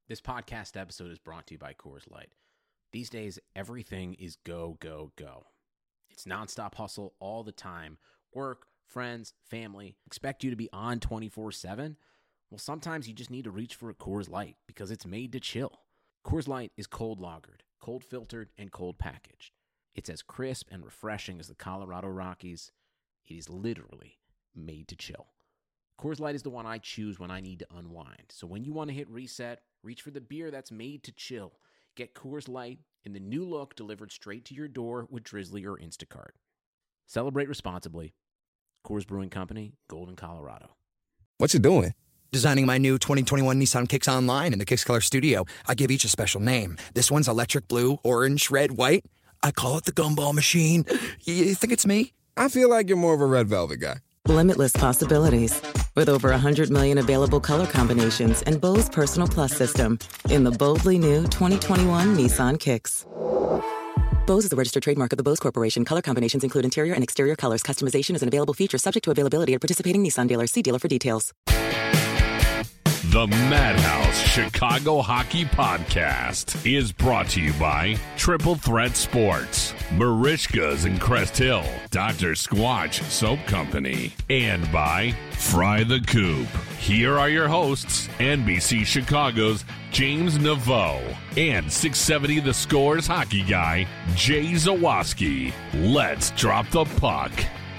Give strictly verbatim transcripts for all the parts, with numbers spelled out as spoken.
This podcast episode is brought to you by Coors Light. These days, everything is go, go, go. It's nonstop hustle all the time. Work, friends, family, expect you to be on twenty-four seven. Well, sometimes you just need to reach for a Coors Light because it's made to chill. Coors Light is cold lagered, cold filtered, and cold packaged. It's as crisp and refreshing as the Colorado Rockies. It is literally made to chill. Coors Light is the one I choose when I need to unwind. So when you want to hit reset, reach for the beer that's made to chill. Get Coors Light in the new look delivered straight to your door with Drizzly or Instacart. Celebrate responsibly. Coors Brewing Company, Golden, Colorado. What you doing? Designing my new twenty twenty-one Nissan Kicks Online in the Kicks Color Studio. I give each a special name. This one's electric blue, orange, red, white. I call it the Gumball Machine. You think it's me? I feel like you're more of a red velvet guy. Limitless possibilities. With over one hundred million available color combinations and Bose Personal Plus system in the boldly new twenty twenty-one Nissan Kicks. Bose is the registered trademark of the Bose Corporation. Color combinations include interior and exterior colors. Customization is an available feature subject to availability at participating Nissan dealers. See dealer for details. The Madhouse Chicago Hockey Podcast is brought to you by Triple Threat Sports, Marishka's in Crest Hill, Doctor Squatch Soap Company, and by Fry the Coop. Here are your hosts, N B C Chicago's James Naveau and six seventy The Score's hockey guy, Jay Zawaski. Let's drop the puck.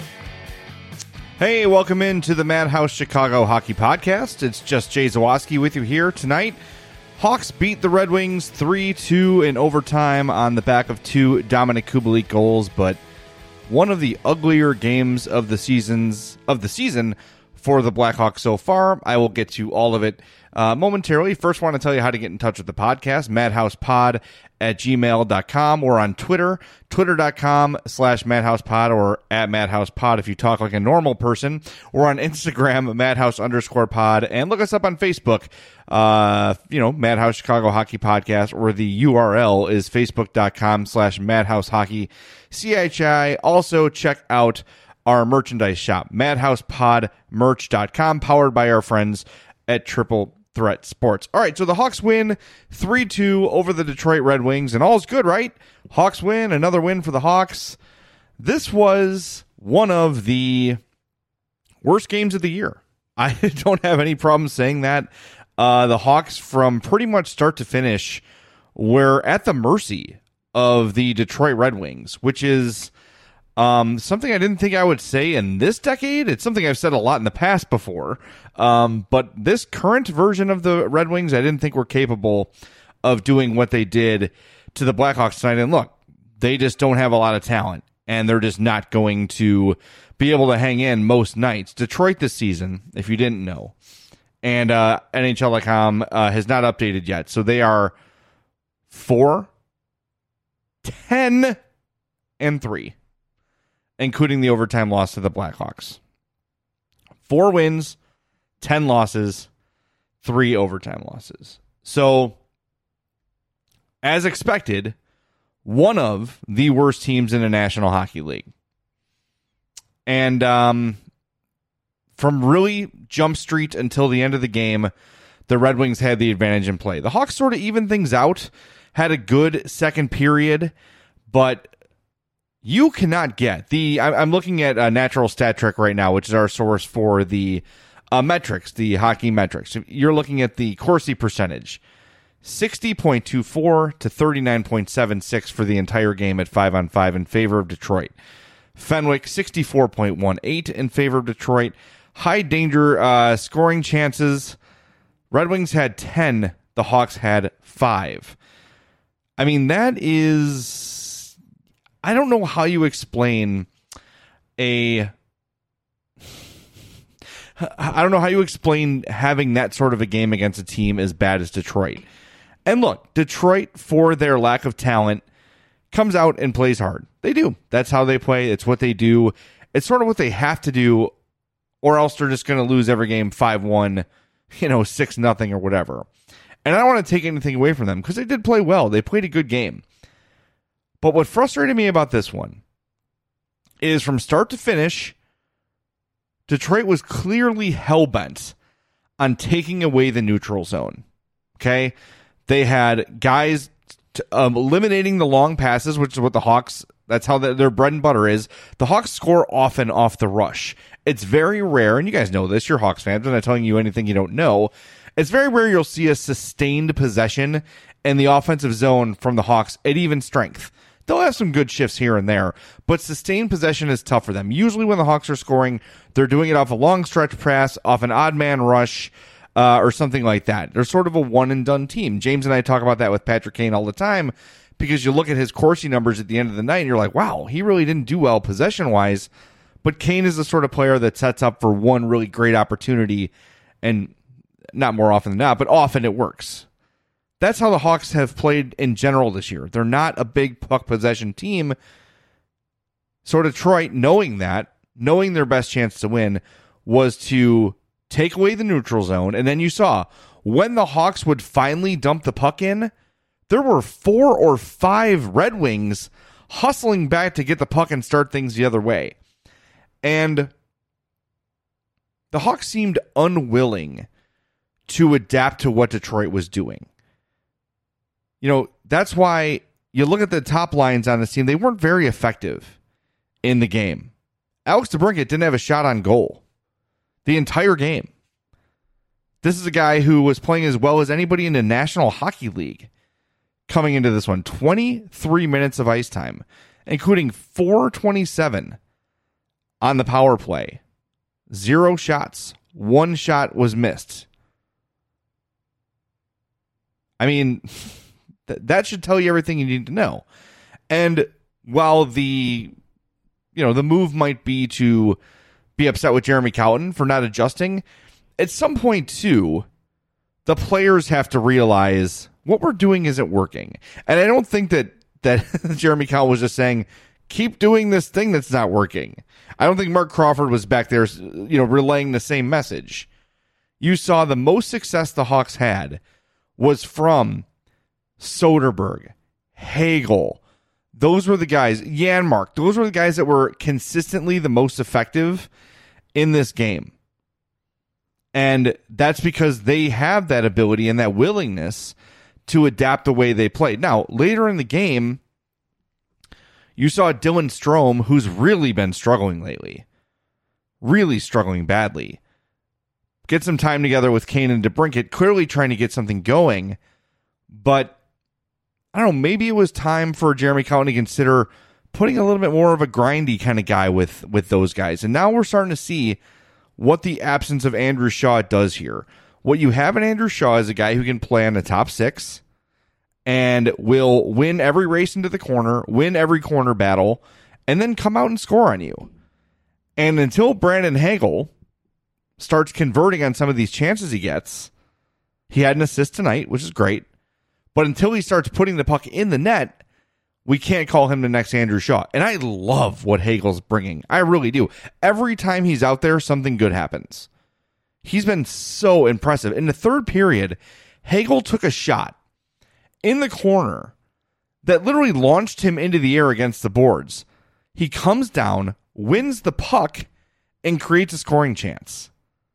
Hey, welcome into the Madhouse Chicago Hockey Podcast. It's just Jay Zawaski with you here tonight. Hawks beat the Red Wings three two in overtime on the back of two Dominic Kubalik goals, but one of the uglier games of the seasons of the season for the Blackhawks so far. I will get to all of it uh, momentarily. First, want to tell you how to get in touch with the podcast, madhousepod at gmail dot com, or on Twitter, twitter.com slash madhousepod, or at madhousepod if you talk like a normal person, or on Instagram, madhouse underscore pod, and look us up on Facebook, uh, you know, Madhouse Chicago Hockey Podcast, or the U R L is facebook.com slash madhouse hockey C H I. Also, check out our merchandise shop, madhouse pod merch dot com, powered by our friends at Triple Threat Sports. All right, so the Hawks win three two over the Detroit Red Wings, and all's good, right? Hawks win, another win for the Hawks. This was one of the worst games of the year. I don't have any problem saying that. Uh, the Hawks, from pretty much start to finish, were at the mercy of the Detroit Red Wings, which is Um, something I didn't think I would say in this decade. It's something I've said a lot in the past before. Um, but this current version of the Red Wings, I didn't think were capable of doing what they did to the Blackhawks tonight. And look, they just don't have a lot of talent, and they're just not going to be able to hang in most nights. Detroit this season, if you didn't know, and uh, N H L dot com uh, has not updated yet. So they are four, ten, and three. Including the overtime loss to the Blackhawks. Four wins, ten losses, three overtime losses. So, as expected, one of the worst teams in the National Hockey League. And um, from really jump street until the end of the game, the Red Wings had the advantage in play. The Hawks sort of evened things out, had a good second period, but you cannot get the. I'm looking at a Natural Stat Trick right now, which is our source for the uh, metrics, the hockey metrics. You're looking at the Corsi percentage, sixty point two four to thirty-nine point seven six for the entire game at five on five in favor of Detroit. Fenwick, sixty-four point one eight in favor of Detroit. High danger uh, scoring chances. Red Wings had ten. The Hawks had five. I mean, that is. I don't know how you explain a. I don't know how you explain having that sort of a game against a team as bad as Detroit. And look, Detroit, for their lack of talent, comes out and plays hard. They do. That's how they play. It's what they do. It's sort of what they have to do, or else they're just going to lose every game five one, you know, six nothing or whatever. And I don't want to take anything away from them because they did play well. They played a good game. But what frustrated me about this one is from start to finish, Detroit was clearly hell-bent on taking away the neutral zone. Okay? They had guys t- um, eliminating the long passes, which is what the Hawks, that's how the, their bread and butter is. The Hawks score often off the rush. It's very rare, and you guys know this, you're Hawks fans, I'm not telling you anything you don't know. It's very rare you'll see a sustained possession in the offensive zone from the Hawks at even strength. They'll have some good shifts here and there, but sustained possession is tough for them. Usually when the Hawks are scoring, they're doing it off a long stretch pass, off an odd man rush, uh, or something like that. They're sort of a one-and-done team. James and I talk about that with Patrick Kane all the time, because you look at his Corsi numbers at the end of the night, and you're like, wow, he really didn't do well possession-wise, but Kane is the sort of player that sets up for one really great opportunity, and not more often than not, but often it works. That's how the Hawks have played in general this year. They're not a big puck possession team. So Detroit, knowing that, knowing their best chance to win was to take away the neutral zone. And then you saw when the Hawks would finally dump the puck in, there were four or five Red Wings hustling back to get the puck and start things the other way. And the Hawks seemed unwilling to adapt to what Detroit was doing. You know, that's why you look at the top lines on this team, they weren't very effective in the game. Alex DeBrincat didn't have a shot on goal the entire game. This is a guy who was playing as well as anybody in the National Hockey League coming into this one. twenty-three minutes of ice time, including four twenty-seven on the power play. Zero shots. One shot was missed. I mean... That should tell you everything you need to know. And while the, you know, the move might be to be upset with Jeremy Colliton for not adjusting, at some point too, the players have to realize what we're doing isn't working. And I don't think that that Jeremy Colliton was just saying, keep doing this thing that's not working. I don't think Mark Crawford was back there, you know, relaying the same message. You saw the most success the Hawks had was from Soderberg, Hagel. Those were the guys, Janmark, those were the guys that were consistently the most effective in this game. And that's because they have that ability and that willingness to adapt the way they play. Now, later in the game, you saw Dylan Strome, who's really been struggling lately. Really struggling badly. Get some time together with Kane and DeBrincat, clearly trying to get something going. But I don't know, maybe it was time for Jeremy Colliton to consider putting a little bit more of a grindy kind of guy with, with those guys. And now we're starting to see what the absence of Andrew Shaw does here. What you have in Andrew Shaw is a guy who can play on the top six and will win every race into the corner, win every corner battle, and then come out and score on you. And until Brandon Hagel starts converting on some of these chances he gets, he had an assist tonight, which is great. But until he starts putting the puck in the net, we can't call him the next Andrew Shaw. And I love what Hagel's bringing. I really do. Every time he's out there, something good happens. He's been so impressive. In the third period, Hagel took a shot in the corner that literally launched him into the air against the boards. He comes down, wins the puck, and creates a scoring chance.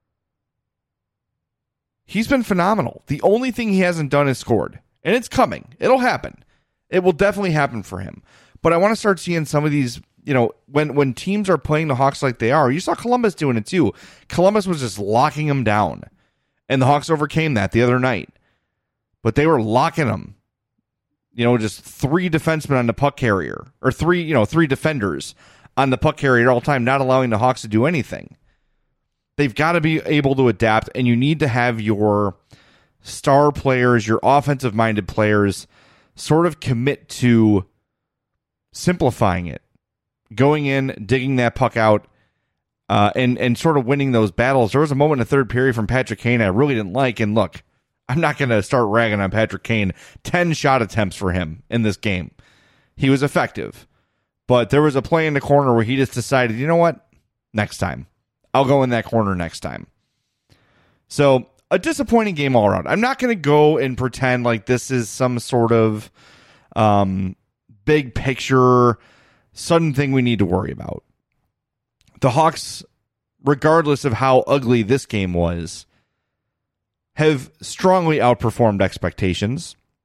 He's been phenomenal. The only thing he hasn't done is scored. And it's coming. It'll happen. It will definitely happen for him. But I want to start seeing some of these, you know, when, when teams are playing the Hawks like they are. You saw Columbus doing it too. Columbus was just locking them down. And the Hawks overcame that the other night. But they were locking them. You know, just three defensemen on the puck carrier. Or three, you know, three defenders on the puck carrier at all time, not allowing the Hawks to do anything. They've got to be able to adapt, and you need to have your star players, your offensive-minded players, sort of commit to simplifying it, going in, digging that puck out, uh, and and sort of winning those battles. There was a moment in the third period from Patrick Kane I really didn't like, and look, I'm not going to start ragging on Patrick Kane. Ten shot attempts for him in this game. He was effective, but there was a play in the corner where he just decided, you know what, next time. I'll go in that corner next time. So, a disappointing game all around. I'm not going to go and pretend like this is some sort of um, big picture, sudden thing we need to worry about. The Hawks, regardless of how ugly this game was, have strongly outperformed expectations.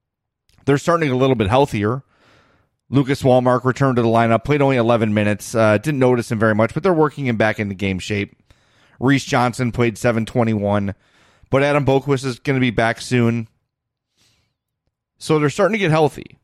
they're starting to get a little bit healthier. Lucas Wallmark returned to the lineup, played only eleven minutes. Uh, didn't notice him very much, but they're working him back into game shape. Reese Johnson played seven twenty-one, but Adam Boquist is going to be back soon. So they're starting to get healthy.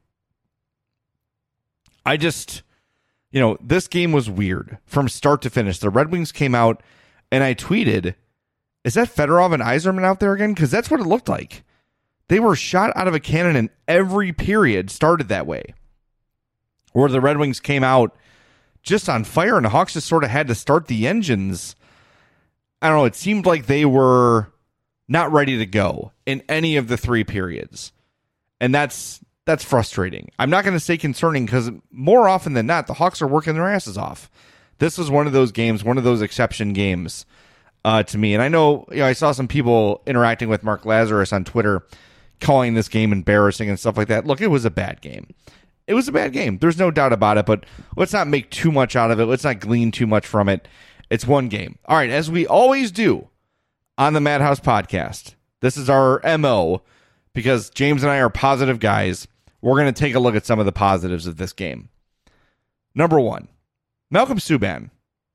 I just, you know, this game was weird from start to finish. The Red Wings came out, and I tweeted, is that Fedorov and Yzerman out there again? Because that's what it looked like. They were shot out of a cannon, and every period started that way. Where the Red Wings came out just on fire, and the Hawks just sort of had to start the engines. I don't know, it seemed like they were not ready to go in any of the three periods. And that's that's frustrating. I'm not going to say concerning, because more often than not, the Hawks are working their asses off. This was one of those games, one of those exception games uh, to me. And I know, you know, I saw some people interacting with Mark Lazarus on Twitter, calling this game embarrassing and stuff like that. Look, it was a bad game. It was a bad game. There's no doubt about it, but let's not make too much out of it. Let's not glean too much from it. It's one game. All right, as we always do on the Madhouse podcast, this is our M O, because James and I are positive guys. We're going to take a look at some of the positives of this game. Number one, Malcolm Subban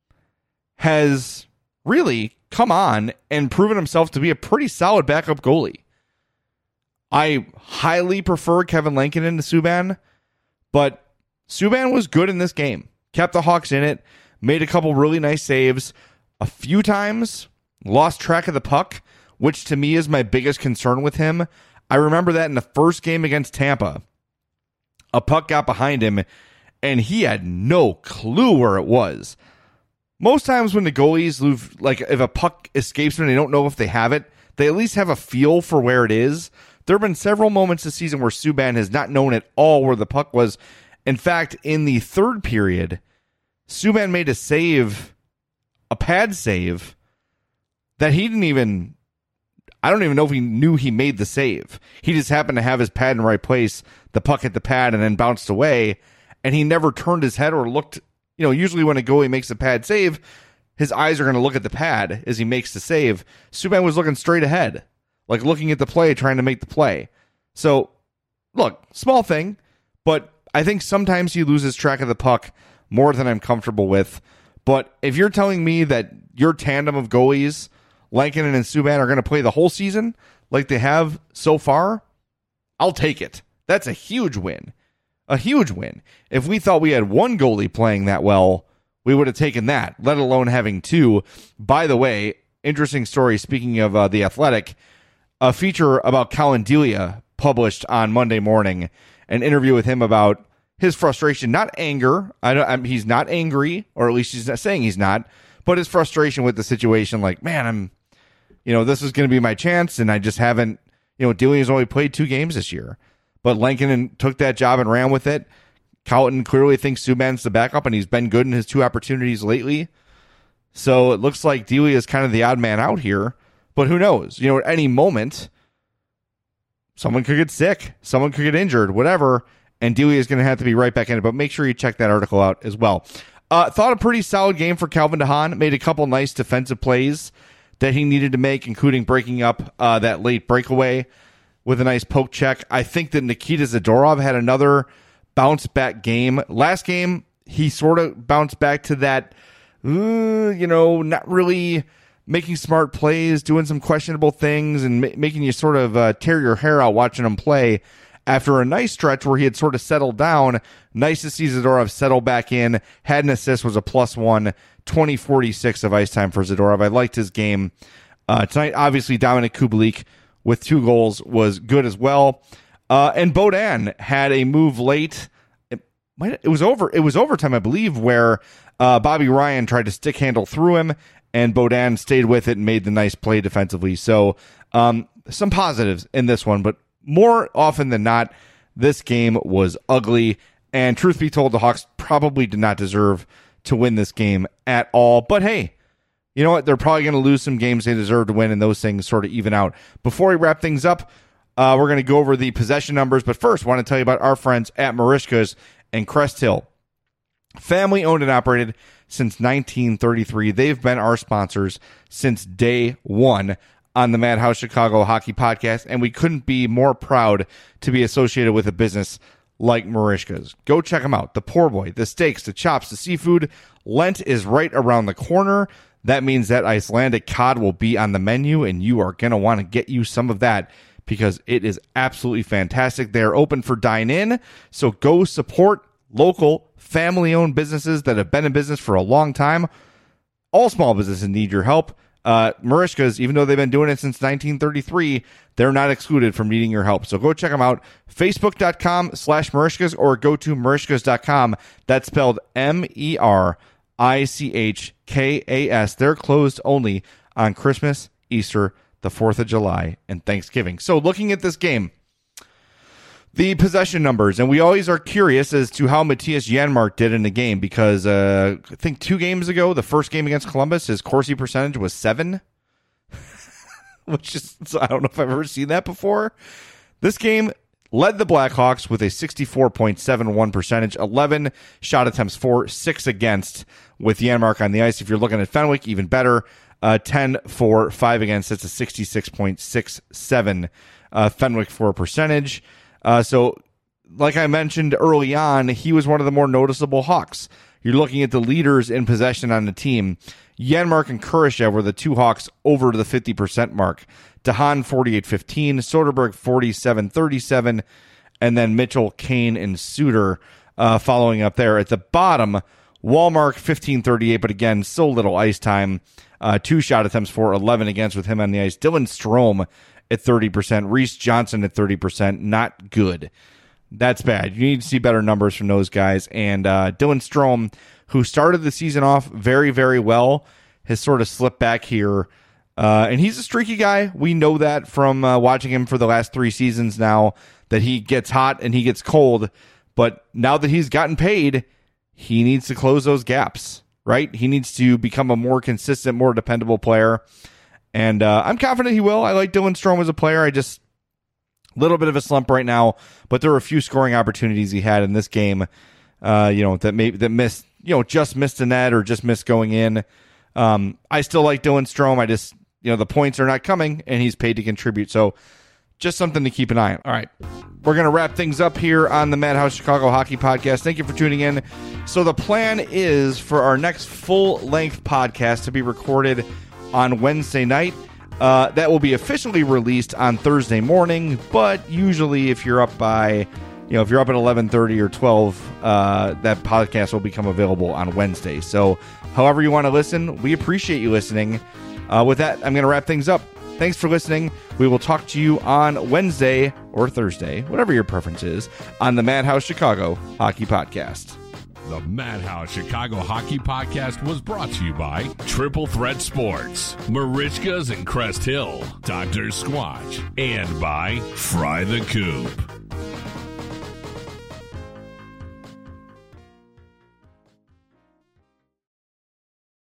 has really come on and proven himself to be a pretty solid backup goalie. I highly prefer Kevin Lankinen to Subban, but Subban was good in this game. Kept the Hawks in it, made a couple really nice saves. A few times, lost track of the puck, which to me is my biggest concern with him. I remember that in the first game against Tampa. A puck got behind him, and he had no clue where it was. Most times when the goalies lose, like if a puck escapes them and they don't know if they have it, they at least have a feel for where it is. There have been several moments this season where Subban has not known at all where the puck was. In fact, in the third period, Subban made a save, a pad save, that he didn't even, I don't even know if he knew he made the save. He just happened to have his pad in the right place, the puck hit the pad and then bounced away, and he never turned his head or looked. You know, usually when a goalie makes a pad save, his eyes are going to look at the pad as he makes the save. Subban was looking straight ahead, like looking at the play, trying to make the play. So, look, small thing, but I think sometimes he loses track of the puck more than I'm comfortable with. But if you're telling me that your tandem of goalies, Lankinen and Subban, are going to play the whole season like they have so far, I'll take it. That's a huge win. A huge win. If we thought we had one goalie playing that well, we would have taken that, let alone having two. By the way, interesting story, speaking of uh, The Athletic, a feature about Colin Delia published on Monday morning, an interview with him about his frustration, not anger. I don't, I'm, he's not angry, or at least he's not saying he's not, but his frustration with the situation. Like, man, I'm, you know, this is going to be my chance, and I just haven't, you know, Delia's only played two games this year, but Lankinen took that job and ran with it. Colton clearly thinks Subban's the backup, and he's been good in his two opportunities lately. So it looks like Delia is kind of the odd man out here. But who knows? You know, at any moment, someone could get sick, someone could get injured, whatever, and Delia is going to have to be right back in it. But make sure you check that article out as well. Uh, thought a pretty solid game for Calvin DeHaan. Made a couple nice defensive plays that he needed to make, including breaking up uh, that late breakaway with a nice poke check. I think that Nikita Zadorov had another bounce back game. Last game, he sort of bounced back to that, uh, you know, not really making smart plays, doing some questionable things, and ma- making you sort of uh, tear your hair out watching him play. After a nice stretch where he had sort of settled down, nice to see Zadorov settle back in. Had an assist, was a plus one, twenty forty-six of ice time for Zadorov. I liked his game. Uh, tonight, obviously, Dominic Kubalik with two goals was good as well. Uh, and Beaudin had a move late. It, might, it was over. It was overtime, I believe, where uh, Bobby Ryan tried to stick handle through him, and Beaudin stayed with it and made the nice play defensively. So um, some positives in this one, but more often than not, this game was ugly. And truth be told, the Hawks probably did not deserve to win this game at all. But hey, you know what? They're probably going to lose some games they deserve to win, and those things sort of even out. Before we wrap things up, uh, we're going to go over the possession numbers. But first, I want to tell you about our friends at Marishka's and Crest Hill. Family owned and operated since nineteen thirty-three. They've been our sponsors since day one. on the Madhouse Chicago Hockey Podcast, and we couldn't be more proud to be associated with a business like Merichka's. Go check them out. The poor boy, the steaks, the chops, the seafood. Lent is right around the corner. That means that Icelandic cod will be on the menu, and you are going to want to get you some of that because it is absolutely fantastic. They are open for dine-in, so go support local, family-owned businesses that have been in business for a long time. All small businesses need your help. Uh, Merichka's, even though they've been doing it since nineteen thirty-three, they're not excluded from needing your help. So go check them out, facebook.com slash Merichka's, or go to Merichkas dot com. That's spelled M E R I C H K A S. They're closed only on Christmas, Easter, the fourth of July, and Thanksgiving. So looking at this game, the possession numbers, and we always are curious as to how Matthias Janmark did in the game because uh, I think two games ago, the first game against Columbus, his Corsi percentage was seven, which is, I don't know if I've ever seen that before. This game led the Blackhawks with a sixty-four point seven one percentage, eleven shot attempts for, six against with Janmark on the ice. If you're looking at Fenwick, even better, uh, ten for, five against. That's a sixty-six point six seven uh, Fenwick for percentage. Uh, so, like I mentioned early on, he was one of the more noticeable Hawks. You're looking at the leaders in possession on the team. Janmark and Kurashev were the two Hawks over the fifty percent mark. DeHaan forty-eight fifteen, Soderberg forty-seven thirty-seven, and then Mitchell, Kane, and Suter uh, following up there. At the bottom, Wallmark fifteen thirty-eight, but again, so little ice time. Uh, two shot attempts for, eleven against with him on the ice. Dylan Strome at thirty percent. Reese Johnson at thirty percent. Not good. That's bad. You need to see better numbers from those guys. And uh, Dylan Strome, who started the season off very, very well, has sort of slipped back here. Uh, and he's a streaky guy. We know that from uh, watching him for the last three seasons now, that he gets hot and he gets cold. But now that he's gotten paid, he needs to close those gaps, right? He needs to become a more consistent, more dependable player. And uh, I'm confident he will. I like Dylan Strome as a player. I just, a little bit of a slump right now, but there were a few scoring opportunities he had in this game, uh, you know, that maybe that missed, you know, just missed a net or just missed going in. Um, I still like Dylan Strome. I just, you know, the points are not coming and he's paid to contribute. So just something to keep an eye on. All right. We're going to wrap things up here on the Madhouse Chicago Hockey Podcast. Thank you for tuning in. So the plan is for our next full-length podcast to be recorded on Wednesday night. Uh, that will be officially released on Thursday morning, but usually if you're up by, you know, if you're up at eleven thirty or twelve, uh, that podcast will become available on Wednesday. So however you want to listen, we appreciate you listening. Uh, with that, I'm going to wrap things up. Thanks for listening. We will talk to you on Wednesday or Thursday, whatever your preference is, on the Madhouse Chicago Hockey Podcast. The Madhouse Chicago Hockey Podcast was brought to you by Triple Threat Sports, Merichka's in Crest Hill, Doctor Squatch, and by Fry the Coop.